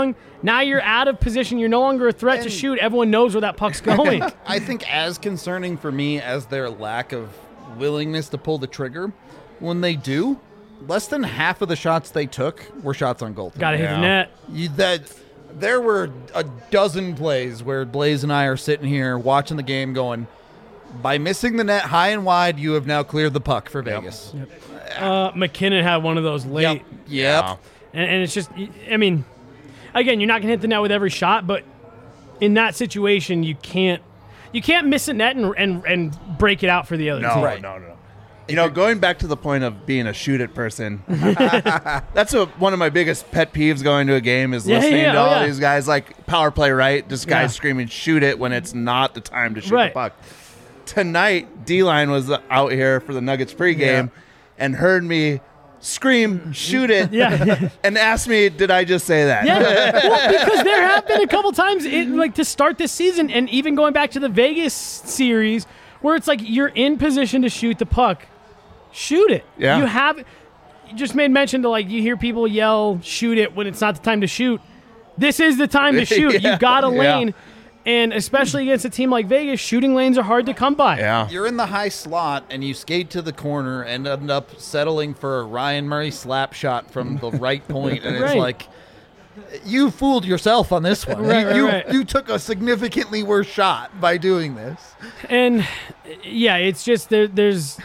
Now you're out of position. You're no longer a threat to And- shoot. Everyone knows where that puck's going. I think as concerning for me as their lack of willingness to pull the trigger, when they do, less than half of the shots they took were shots on goal. Got to hit the net. You, that there were a dozen plays where Blaze and I are sitting here watching the game going, by missing the net high and wide, you have now cleared the puck for Vegas. Yep. Uh, McKinnon had one of those late. Yep. Yep. And, and it's just, I mean, again, you're not going to hit the net with every shot, but in that situation, you can't you can't miss a net and and, and break it out for the other No, team. Right. no, no. You know, going back to the point of being a shoot-it person, that's a, one of my biggest pet peeves going to a game is Yeah, listening yeah, to oh, all yeah. these guys, like, power play, right? Just guys Yeah. screaming, shoot it, when it's not the time to shoot Right. the puck. Tonight, D-Line was out here for the Nuggets pregame Yeah. and heard me scream, shoot it, Yeah. and asked me, did I just say that? Yeah, well, because there have been a couple times, in, like to start this season, and even going back to the Vegas series, where it's like you're in position to shoot the puck, shoot it. Yeah. You have. You just made mention to like you hear people yell, "Shoot it" when it's not the time to shoot. This is the time to shoot. Yeah, You've got a yeah. lane, and especially against a team like Vegas, shooting lanes are hard to come by. Yeah. You're in the high slot and you skate to the corner and end up settling for a Ryan Murray slap shot from the right point, and it's Right. like you fooled yourself on this one. Right, you, right, you, right. you took a significantly worse shot by doing this. And yeah, it's just there, there's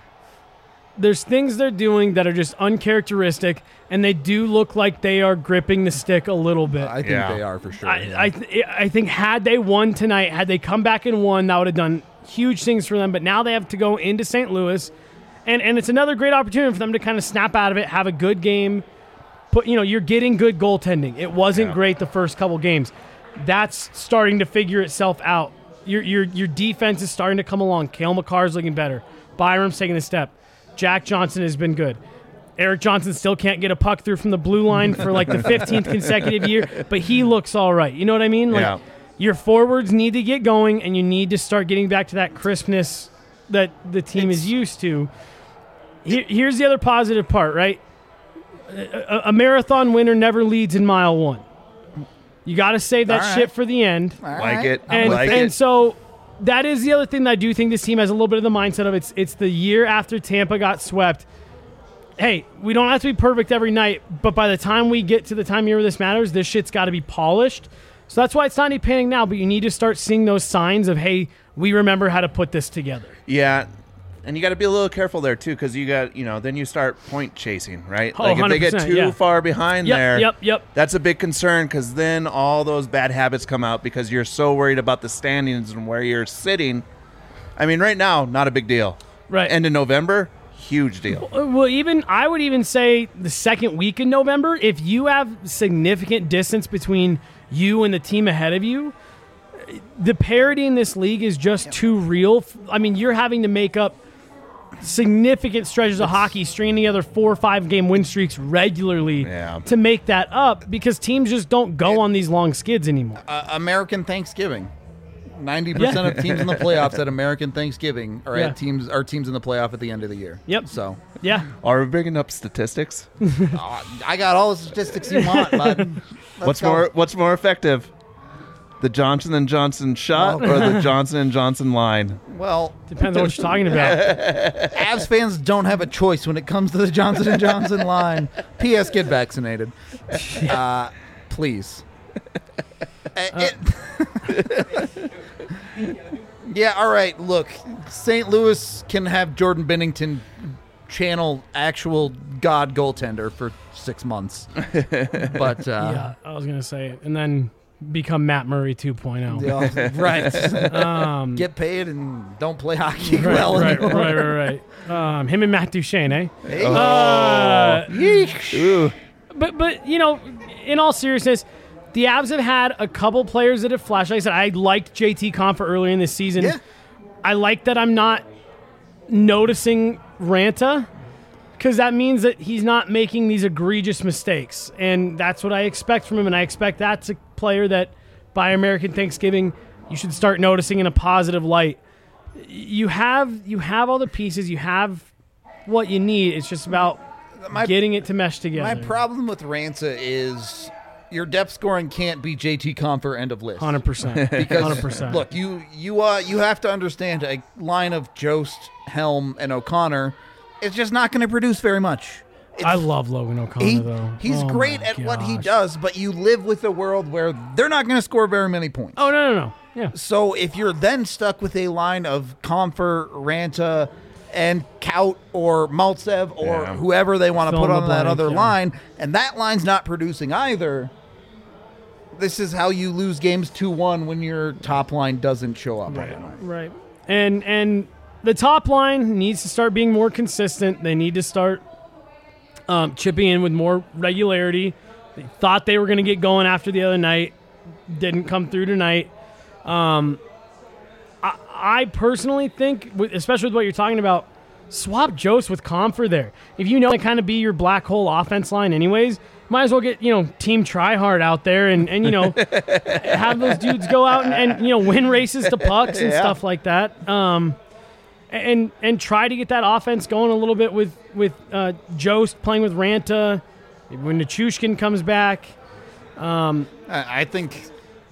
there's things they're doing that are just uncharacteristic, and they do look like they are gripping the stick a little bit. I think Yeah. they are for sure. I, yeah. I, th- I think had they won tonight, had they come back and won, that would have done huge things for them. But now they have to go into Saint Louis, and, and it's another great opportunity for them to kind of snap out of it, have a good game. Put you know you're getting good goaltending. It wasn't Yeah. great the first couple games. That's starting to figure itself out. Your your your defense is starting to come along. Cale Makar's looking better. Byram's taking a step. Jack Johnson has been good. Eric Johnson still can't get a puck through from the blue line for like the fifteenth consecutive year, but he looks all right. You know what I mean? Like Yeah. your forwards need to get going, and you need to start getting back to that crispness that the team is used to. Here, here's the other positive part, right? A, a marathon winner never leads in mile one. You got to save that All right. shit for the end. All Like right. it. And, like and it. so that is the other thing that I do think this team has a little bit of the mindset of it's it's the year after Tampa got swept. Hey, we don't have to be perfect every night, but by the time we get to the time of year where this matters, this shit's got to be polished. So that's why it's not any panic now, but you need to start seeing those signs of, hey, we remember how to put this together. Yeah. And you got to be a little careful there, too, because you got, you know, then you start point chasing, right? Oh, like if they get one hundred percent, too yeah. far behind Yep, there, yep, yep. that's a big concern because then all those bad habits come out because you're so worried about the standings and where you're sitting. I mean, right now, not a big deal. Right. End of November, huge deal. Well, even I would even say the second week in November, if you have significant distance between you and the team ahead of you, the parity in this league is just too real. I mean, you're having to make up significant stretches of hockey, stringing together four or five game win streaks regularly Yeah. to make that up because teams just don't go on these long skids anymore. Uh, American Thanksgiving. Ninety percent of teams in the playoffs at American Thanksgiving are Yeah. at teams are teams in the playoff at the end of the year. Yep. So Yeah. Are we bringing up statistics? uh, I got all the statistics you want, bud. Let's what's go. more What's more effective? The Johnson and Johnson shot Oh. or the Johnson and Johnson line? Well, Depends on what you're talking about. Avs fans don't have a choice when it comes to the Johnson and Johnson line. P S. Get vaccinated, uh, please. Uh, it- yeah. All right. Look, Saint Louis can have Jordan Bennington channel actual god goaltender for six months, but uh, Yeah, I was going to say it. And then become Matt Murray two point oh. yeah, right. Um, Get paid and don't play hockey right, well right, anymore. right, right, right. Um, him and Matt Duchene, eh? Hey. Uh, Ooh. but but you know, in all seriousness, the Avs have had a couple players that have flashed. Like I said, I liked J T Confer earlier in this season. Yeah. I like that I'm not noticing Ranta because that means that he's not making these egregious mistakes, and that's what I expect from him. And I expect that's a player that by American Thanksgiving you should start noticing in a positive light. You have you have all the pieces. You have what you need. It's just about My- getting it to mesh together. My problem with Ransa is your depth scoring can't be J T Compher end of list. one hundred percent. Because one hundred percent. look, you you uh you have to understand a line of Jost, Helm, and O'Connor is just not going to produce very much. It's, I love Logan O'Connor, he, though. he's Oh great my at what he gosh. does, but you live with a world where they're not going to score very many points. Oh, no, no, no. Yeah. So if you're then stuck with a line of Comfer, Ranta, and Kaut or Maltsev or Yeah. whoever they want to Fill put in on the that blank, other yeah. line, and that line's not producing either, this is how you lose games two one when your top line doesn't show up. Right. Right. And and the top line needs to start being more consistent. They need to start um, chipping in with more regularity. They thought they were going to get going after the other night. Didn't come through tonight. Um, I, I personally think, with- especially with what you're talking about, swap Jost with Comfer there. If you know to kind of be your black hole offense line anyways, might as well get, you know, Team Tryhard out there and, and you know, have those dudes go out and, and, you know, win races to pucks and Yeah. stuff like that. Um, and and try to get that offense going a little bit with, with uh, Jost playing with Ranta. Maybe when Nichushkin comes back. Um, I I think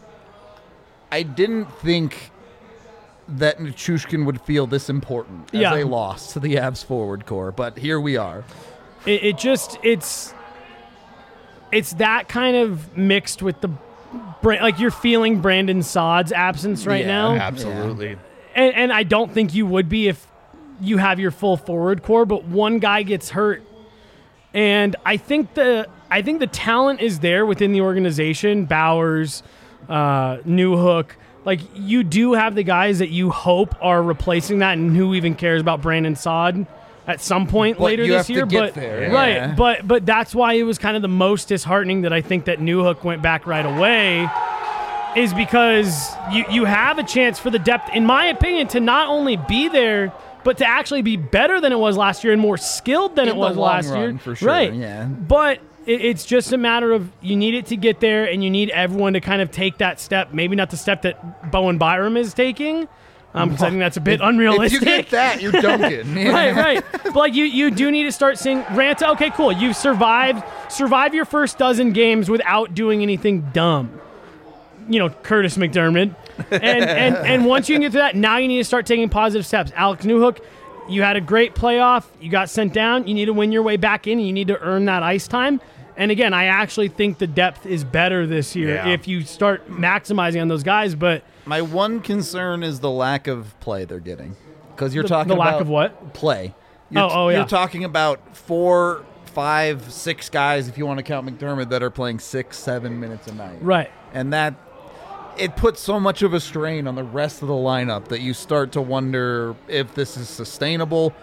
I didn't think that Nichushkin would feel this important as Yeah. a loss to the Avs forward core, but here we are. It, it just it's it's that kind of mixed with the Bra- like you're feeling Brandon Saad's absence right Yeah. now, Absolutely. and, and I don't think you would be if you have your full forward core. But one guy gets hurt, and I think the I think the talent is there within the organization. Bowers, uh, Newhook. Like, you do have the guys that you hope are replacing that, and who even cares about Brandon Saad at some point But later you this have to year. get but there. right, Yeah. but but that's why it was kind of the most disheartening that I think that Newhook went back right away, is because you you have a chance for the depth, in my opinion, to not only be there, but to actually be better than it was last year and more skilled than In it was the long last year. run, for sure, Right. yeah. But it, it's just a matter of you need it to get there, and you need everyone to kind of take that step. Maybe not the step that Bowen Byram is taking, because I think that's a bit If unrealistic. you get that, you're dunking. Yeah. Right, right. But like you, you do need to start seeing Ranta. Okay, cool. You've survived, survive your first dozen games without doing anything dumb. You know, Curtis McDermott. And and and once you can get to that, now you need to start taking positive steps. Alex Newhook, you had a great playoff. You got sent down. You need to win your way back in. And you need to earn that ice time. And again, I actually think the depth is better this year Yeah. if you start maximizing on those guys. But My one concern is the lack of play they're getting. Because you're The- talking the lack about of what? play. You're, Oh, oh, yeah. You're talking about four, five, six guys, if you want to count McDermott, that are playing six, seven minutes a night. right. And that it puts so much of a strain on the rest of the lineup that you start to wonder if this is sustainable.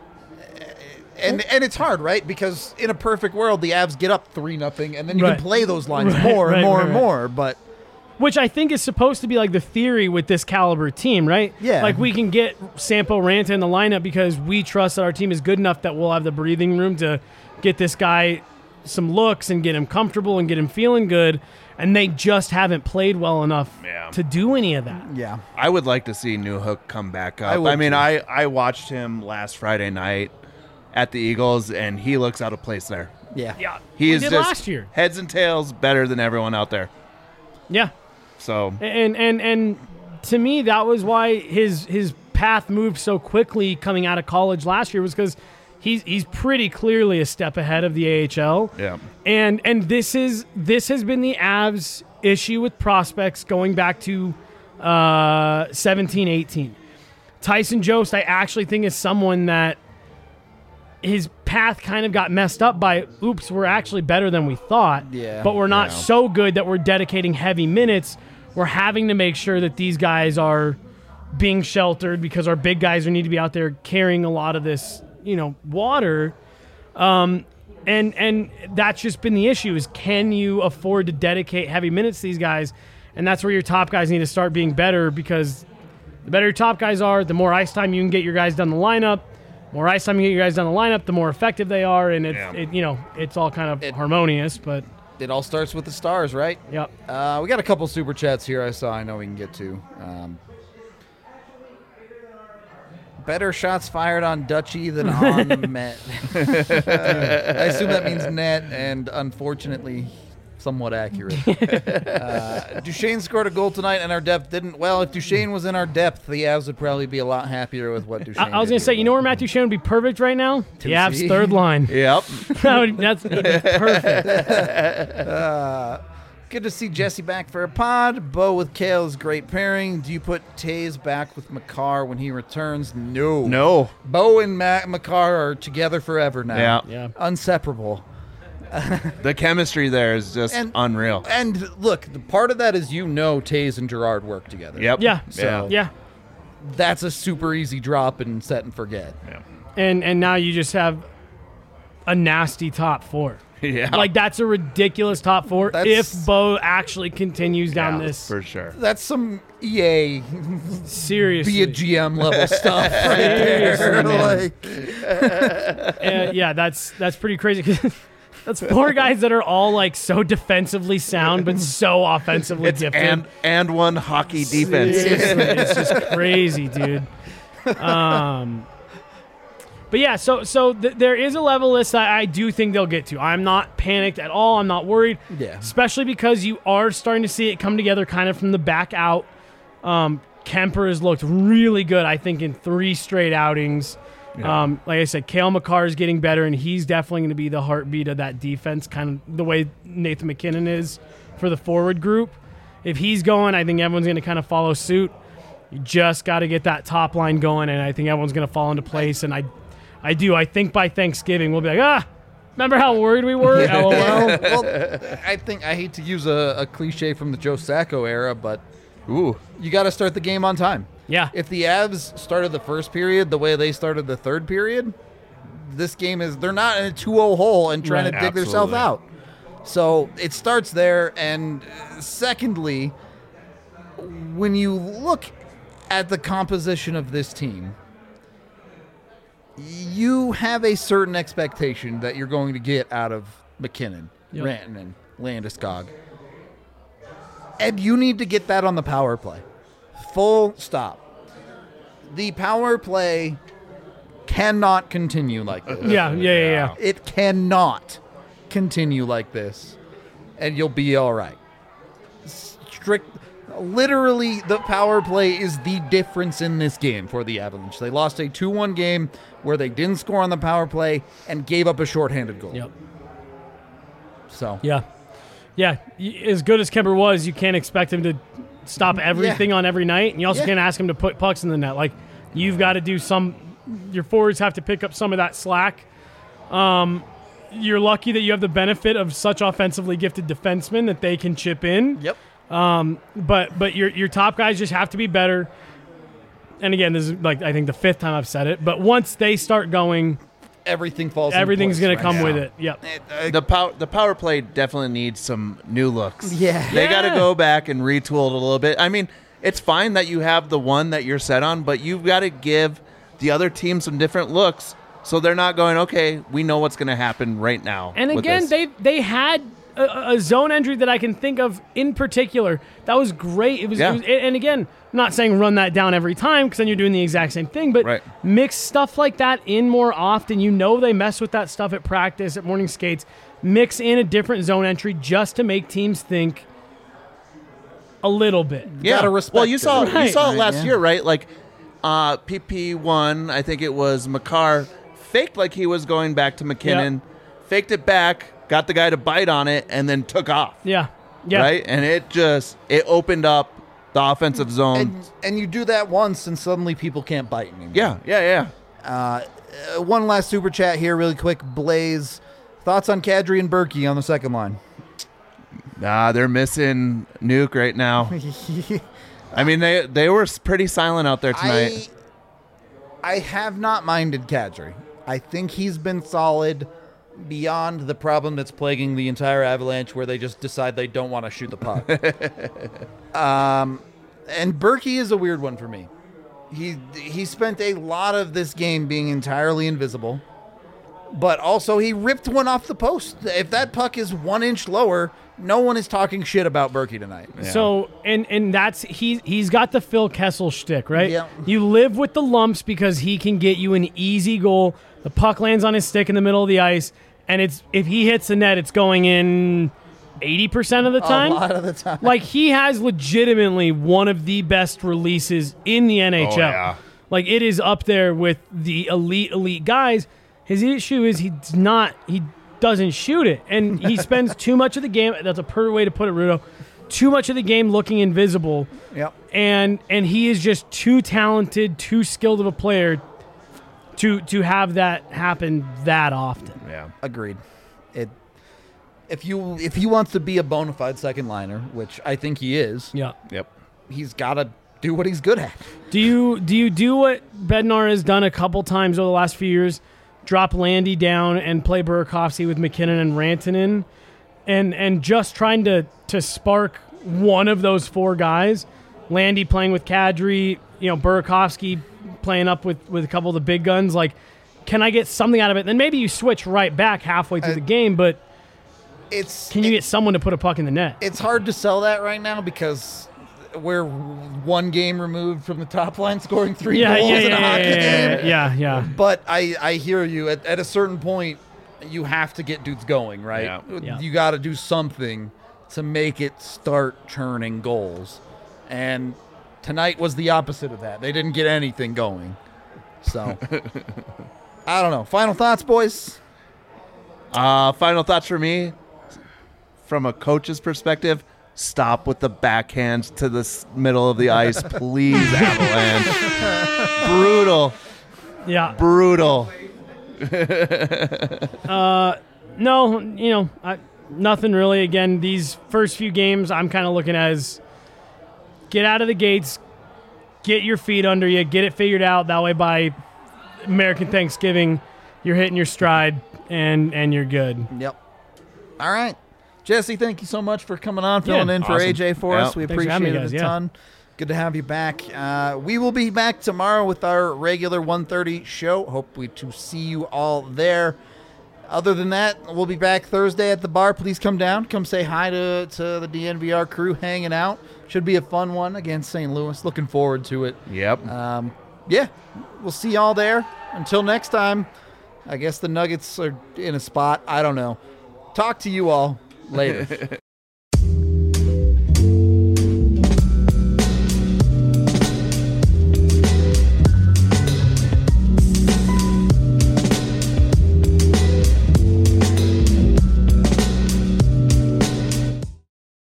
And and it's hard, right? Because in a perfect world, the Avs get up three nothing, and then you Right. can play those lines Right, more and right, more right, and right. more. But Which I think is supposed to be like the theory with this caliber team, right? Yeah. Like we can get Sampo Ranta in the lineup because we trust that our team is good enough that we'll have the breathing room to get this guy some looks and get him comfortable and get him feeling good. And they just haven't played well enough Yeah. to do any of that. yeah, I would like to see Newhook come back up. I I, would mean, too. I, I watched him last Friday night at the Eagles, and he looks out of place there. yeah, Yeah. He we is did just last year. heads and tails better than everyone out there. Yeah. So And and and to me, that was why his his path moved so quickly coming out of college last year, was because he's he's pretty clearly a step ahead of the A H L. yeah, And and this is this has been the Avs' issue with prospects going back to uh, seventeen eighteen. Tyson Jost, I actually think, is someone that his path kind of got messed up by, oops, we're actually better than we thought. Yeah. But we're not Yeah. so good that we're dedicating heavy minutes. We're having to make sure that these guys are being sheltered because our big guys need to be out there carrying a lot of this, you know, water. Um, and and that's just been the issue, is can you afford to dedicate heavy minutes to these guys? And that's where your top guys need to start being better, because the better your top guys are, the more ice time you can get your guys down the lineup. More ice time you get your guys down the lineup, the more effective they are, and it's Yeah. it, you know, it's all kind of It- harmonious. But it all starts with the stars, right? yep, Uh, we got a couple super chats here. I saw. I know we can get to. Um, better shots fired on Dutchy than on Met. Uh, I assume that means net, and unfortunately, somewhat accurate. uh, Duchesne scored a goal tonight, and our depth didn't. Well, if Duchesne was in our depth, the Avs would probably be a lot happier with what Duchesne I, I was did going to say, here. you know where Matthew Shane would be perfect right now? The Avs' C. third line. Yep. That would- that's it'd be perfect. Uh, good to see Jesse back for a pod. Bo with Kale is great pairing. Do you put Taze back with Makar when he returns? No. No. Bo and Ma- Makar are together forever now. Yeah. Yeah. Inseparable. The chemistry there is just And- unreal. And look, the part of that is you know Taze and Gerard work together. Yep. Yeah. So- Yeah. That's a super easy drop and set and forget. And and now you just have a nasty top four. Yeah. Like, that's a ridiculous top four That's- if Bo actually continues down Yeah, this. for sure. That's some E A Seriously. be a G M level stuff right Seriously, there. man. Like, Uh, yeah, that's that's pretty crazy. That's four guys that are all like so defensively sound, but so offensively It's gifted. and and one hockey defense. Seriously, it's just crazy, dude. Um, but yeah, so so th- there is a level list that I do think they'll get to. I'm not panicked at all. I'm not worried. Yeah. Especially because you are starting to see it come together kind of from the back out. Um, Kemper has looked really good, I think, in three straight outings. Um, like I said, Kale McCarr is getting better, and he's definitely going to be the heartbeat of that defense, kind of the way Nathan McKinnon is for the forward group. If he's going, I think everyone's going to kind of follow suit. You just got to get that top line going, and I think everyone's going to fall into place. And I, I do. I think by Thanksgiving we'll be like, ah, remember how worried we were? LOL. well, I think I hate to use a, a cliche from the Joe Sacco era, but Ooh. you got to start the game on time. Yeah. If the Avs started the first period the way they started the third period, this game is they're not in a two oh hole and trying Right. to dig themselves Absolutely. out. So it starts there. And uh, secondly, when you look at the composition of this team, you have a certain expectation that you're going to get out of McKinnon, Yep. Rantanen, Landeskog. And you need to get that on the power play. Full stop. The power play cannot continue like this. yeah, yeah, yeah, yeah. It cannot continue like this, and you'll be all right. Strict, literally, the power play is the difference in this game for the Avalanche. They lost a two one game where they didn't score on the power play and gave up a shorthanded goal. Yep. So Yeah. Yeah. Y- As good as Kemper was, you can't expect him to stop everything on every night. And you also Yeah. can't ask him to put pucks in the net. Like, you've got to do some, your forwards have to pick up some of that slack. Um, you're lucky that you have the benefit of such offensively gifted defensemen that they can chip in. Yep. But but your your top guys just have to be better. And again, this is like I think the fifth time I've said it. But once they start going, Everything falls. everything's going going to come with it. Yep. The power the power play definitely needs some new looks. Yeah. They got to Yeah. go back and retool it a little bit. I mean, it's fine that you have the one that you're set on, but you've got to give the other team some different looks so they're not going, okay, we know what's going to happen right now. And with again, this. they they had a, a zone entry that I can think of in particular that was great. It was, Yeah. it was and again, I'm not saying run that down every time because then you're doing the exact same thing, but Right. mix stuff like that in more often. You know they mess with that stuff at practice, at morning skates. Mix in a different zone entry just to make teams think a little bit. yeah. gotta respect well, you it. saw you Right. saw it Right, last yeah. year, right? Like uh, P P one, I think it was McCarr faked like he was going back to McKinnon, faked it back, got the guy to bite on it, and then took off. Yeah. Yeah. Right, and it just it opened up the offensive zone. And, and you do that once, and suddenly people can't bite anymore. yeah, yeah, yeah. Uh, one last super chat here, really quick. Blaze, thoughts on Kadri and Berkey on the second line? Nah, they're missing Nuke right now. I mean, they they were pretty silent out there tonight. I, I have not minded Kadri. I think he's been solid beyond the problem that's plaguing the entire Avalanche, where they just decide they don't want to shoot the puck. um, and Berkey is a weird one for me. He he spent a lot of this game being entirely invisible, but also he ripped one off the post. If that puck is one inch lower, no one is talking shit about Berkey tonight. So and and that's he he's got the Phil Kessel shtick, right? Yeah. You live with the lumps because he can get you an easy goal. The puck lands on his stick in the middle of the ice, and it's if he hits the net, it's going in eighty percent of the time. A lot of the time. Like, he has legitimately one of the best releases in the N H L. Oh, yeah. Like, it is up there with the elite, elite guys. His issue is he's not, he doesn't shoot it. And he spends too much of the game, that's a perfect way to put it, Rudo, too much of the game looking invisible. Yep. And and he is just too talented, too skilled of a player to to have that happen that often. Yeah. Agreed. It if you if he wants to be a bona fide second liner, which I think he is, Yeah. Yep. he's got to do what he's good at. Do you do you do what Bednar has done a couple times over the last few years? Drop Landy down and play Burakovsky with McKinnon and Rantanen, and and just trying to to spark one of those four guys. Landy playing with Kadri, you know, Burakovsky playing up with, with a couple of the big guns. Like, can I get something out of it? Then maybe you switch right back halfway through Uh, the game, but It's can you it- get someone to put a puck in the net? It's hard to sell that right now because we're one game removed from the top line scoring three yeah, goals yeah, in yeah, a yeah, hockey yeah, game. yeah, yeah. But I, I hear you. At, at a certain point, you have to get dudes going, right? Yeah. Yeah. You got to do something to make it start churning goals. And tonight was the opposite of that. They didn't get anything going. So, I don't know. Final thoughts, boys? Uh, final thoughts for me, from a coach's perspective, stop with the backhands to the s- middle of the ice, please, Avalanche. Brutal. Yeah. Brutal. No, you know, I, nothing really. Again, these first few games, I'm kind of looking as get out of the gates, get your feet under you, get it figured out. That way, by American Thanksgiving, you're hitting your stride and and you're good. Yep. All right. Jesse, thank you so much for coming on, filling Yeah. in for Awesome. A J for Yeah. us. We Thanks for having appreciate me, it guys. a Yeah. ton. Good to have you back. Uh, we will be back tomorrow with our regular one thirty show. Hope we to see you all there. Other than that, we'll be back Thursday at the bar. Please come down. Come say hi to, to the D N V R crew hanging out. Should be a fun one against Saint Louis. Looking forward to it. Yep. Um, yeah, we'll see y'all there. Until next time, I guess the Nuggets are in a spot. I don't know. Talk to you all later.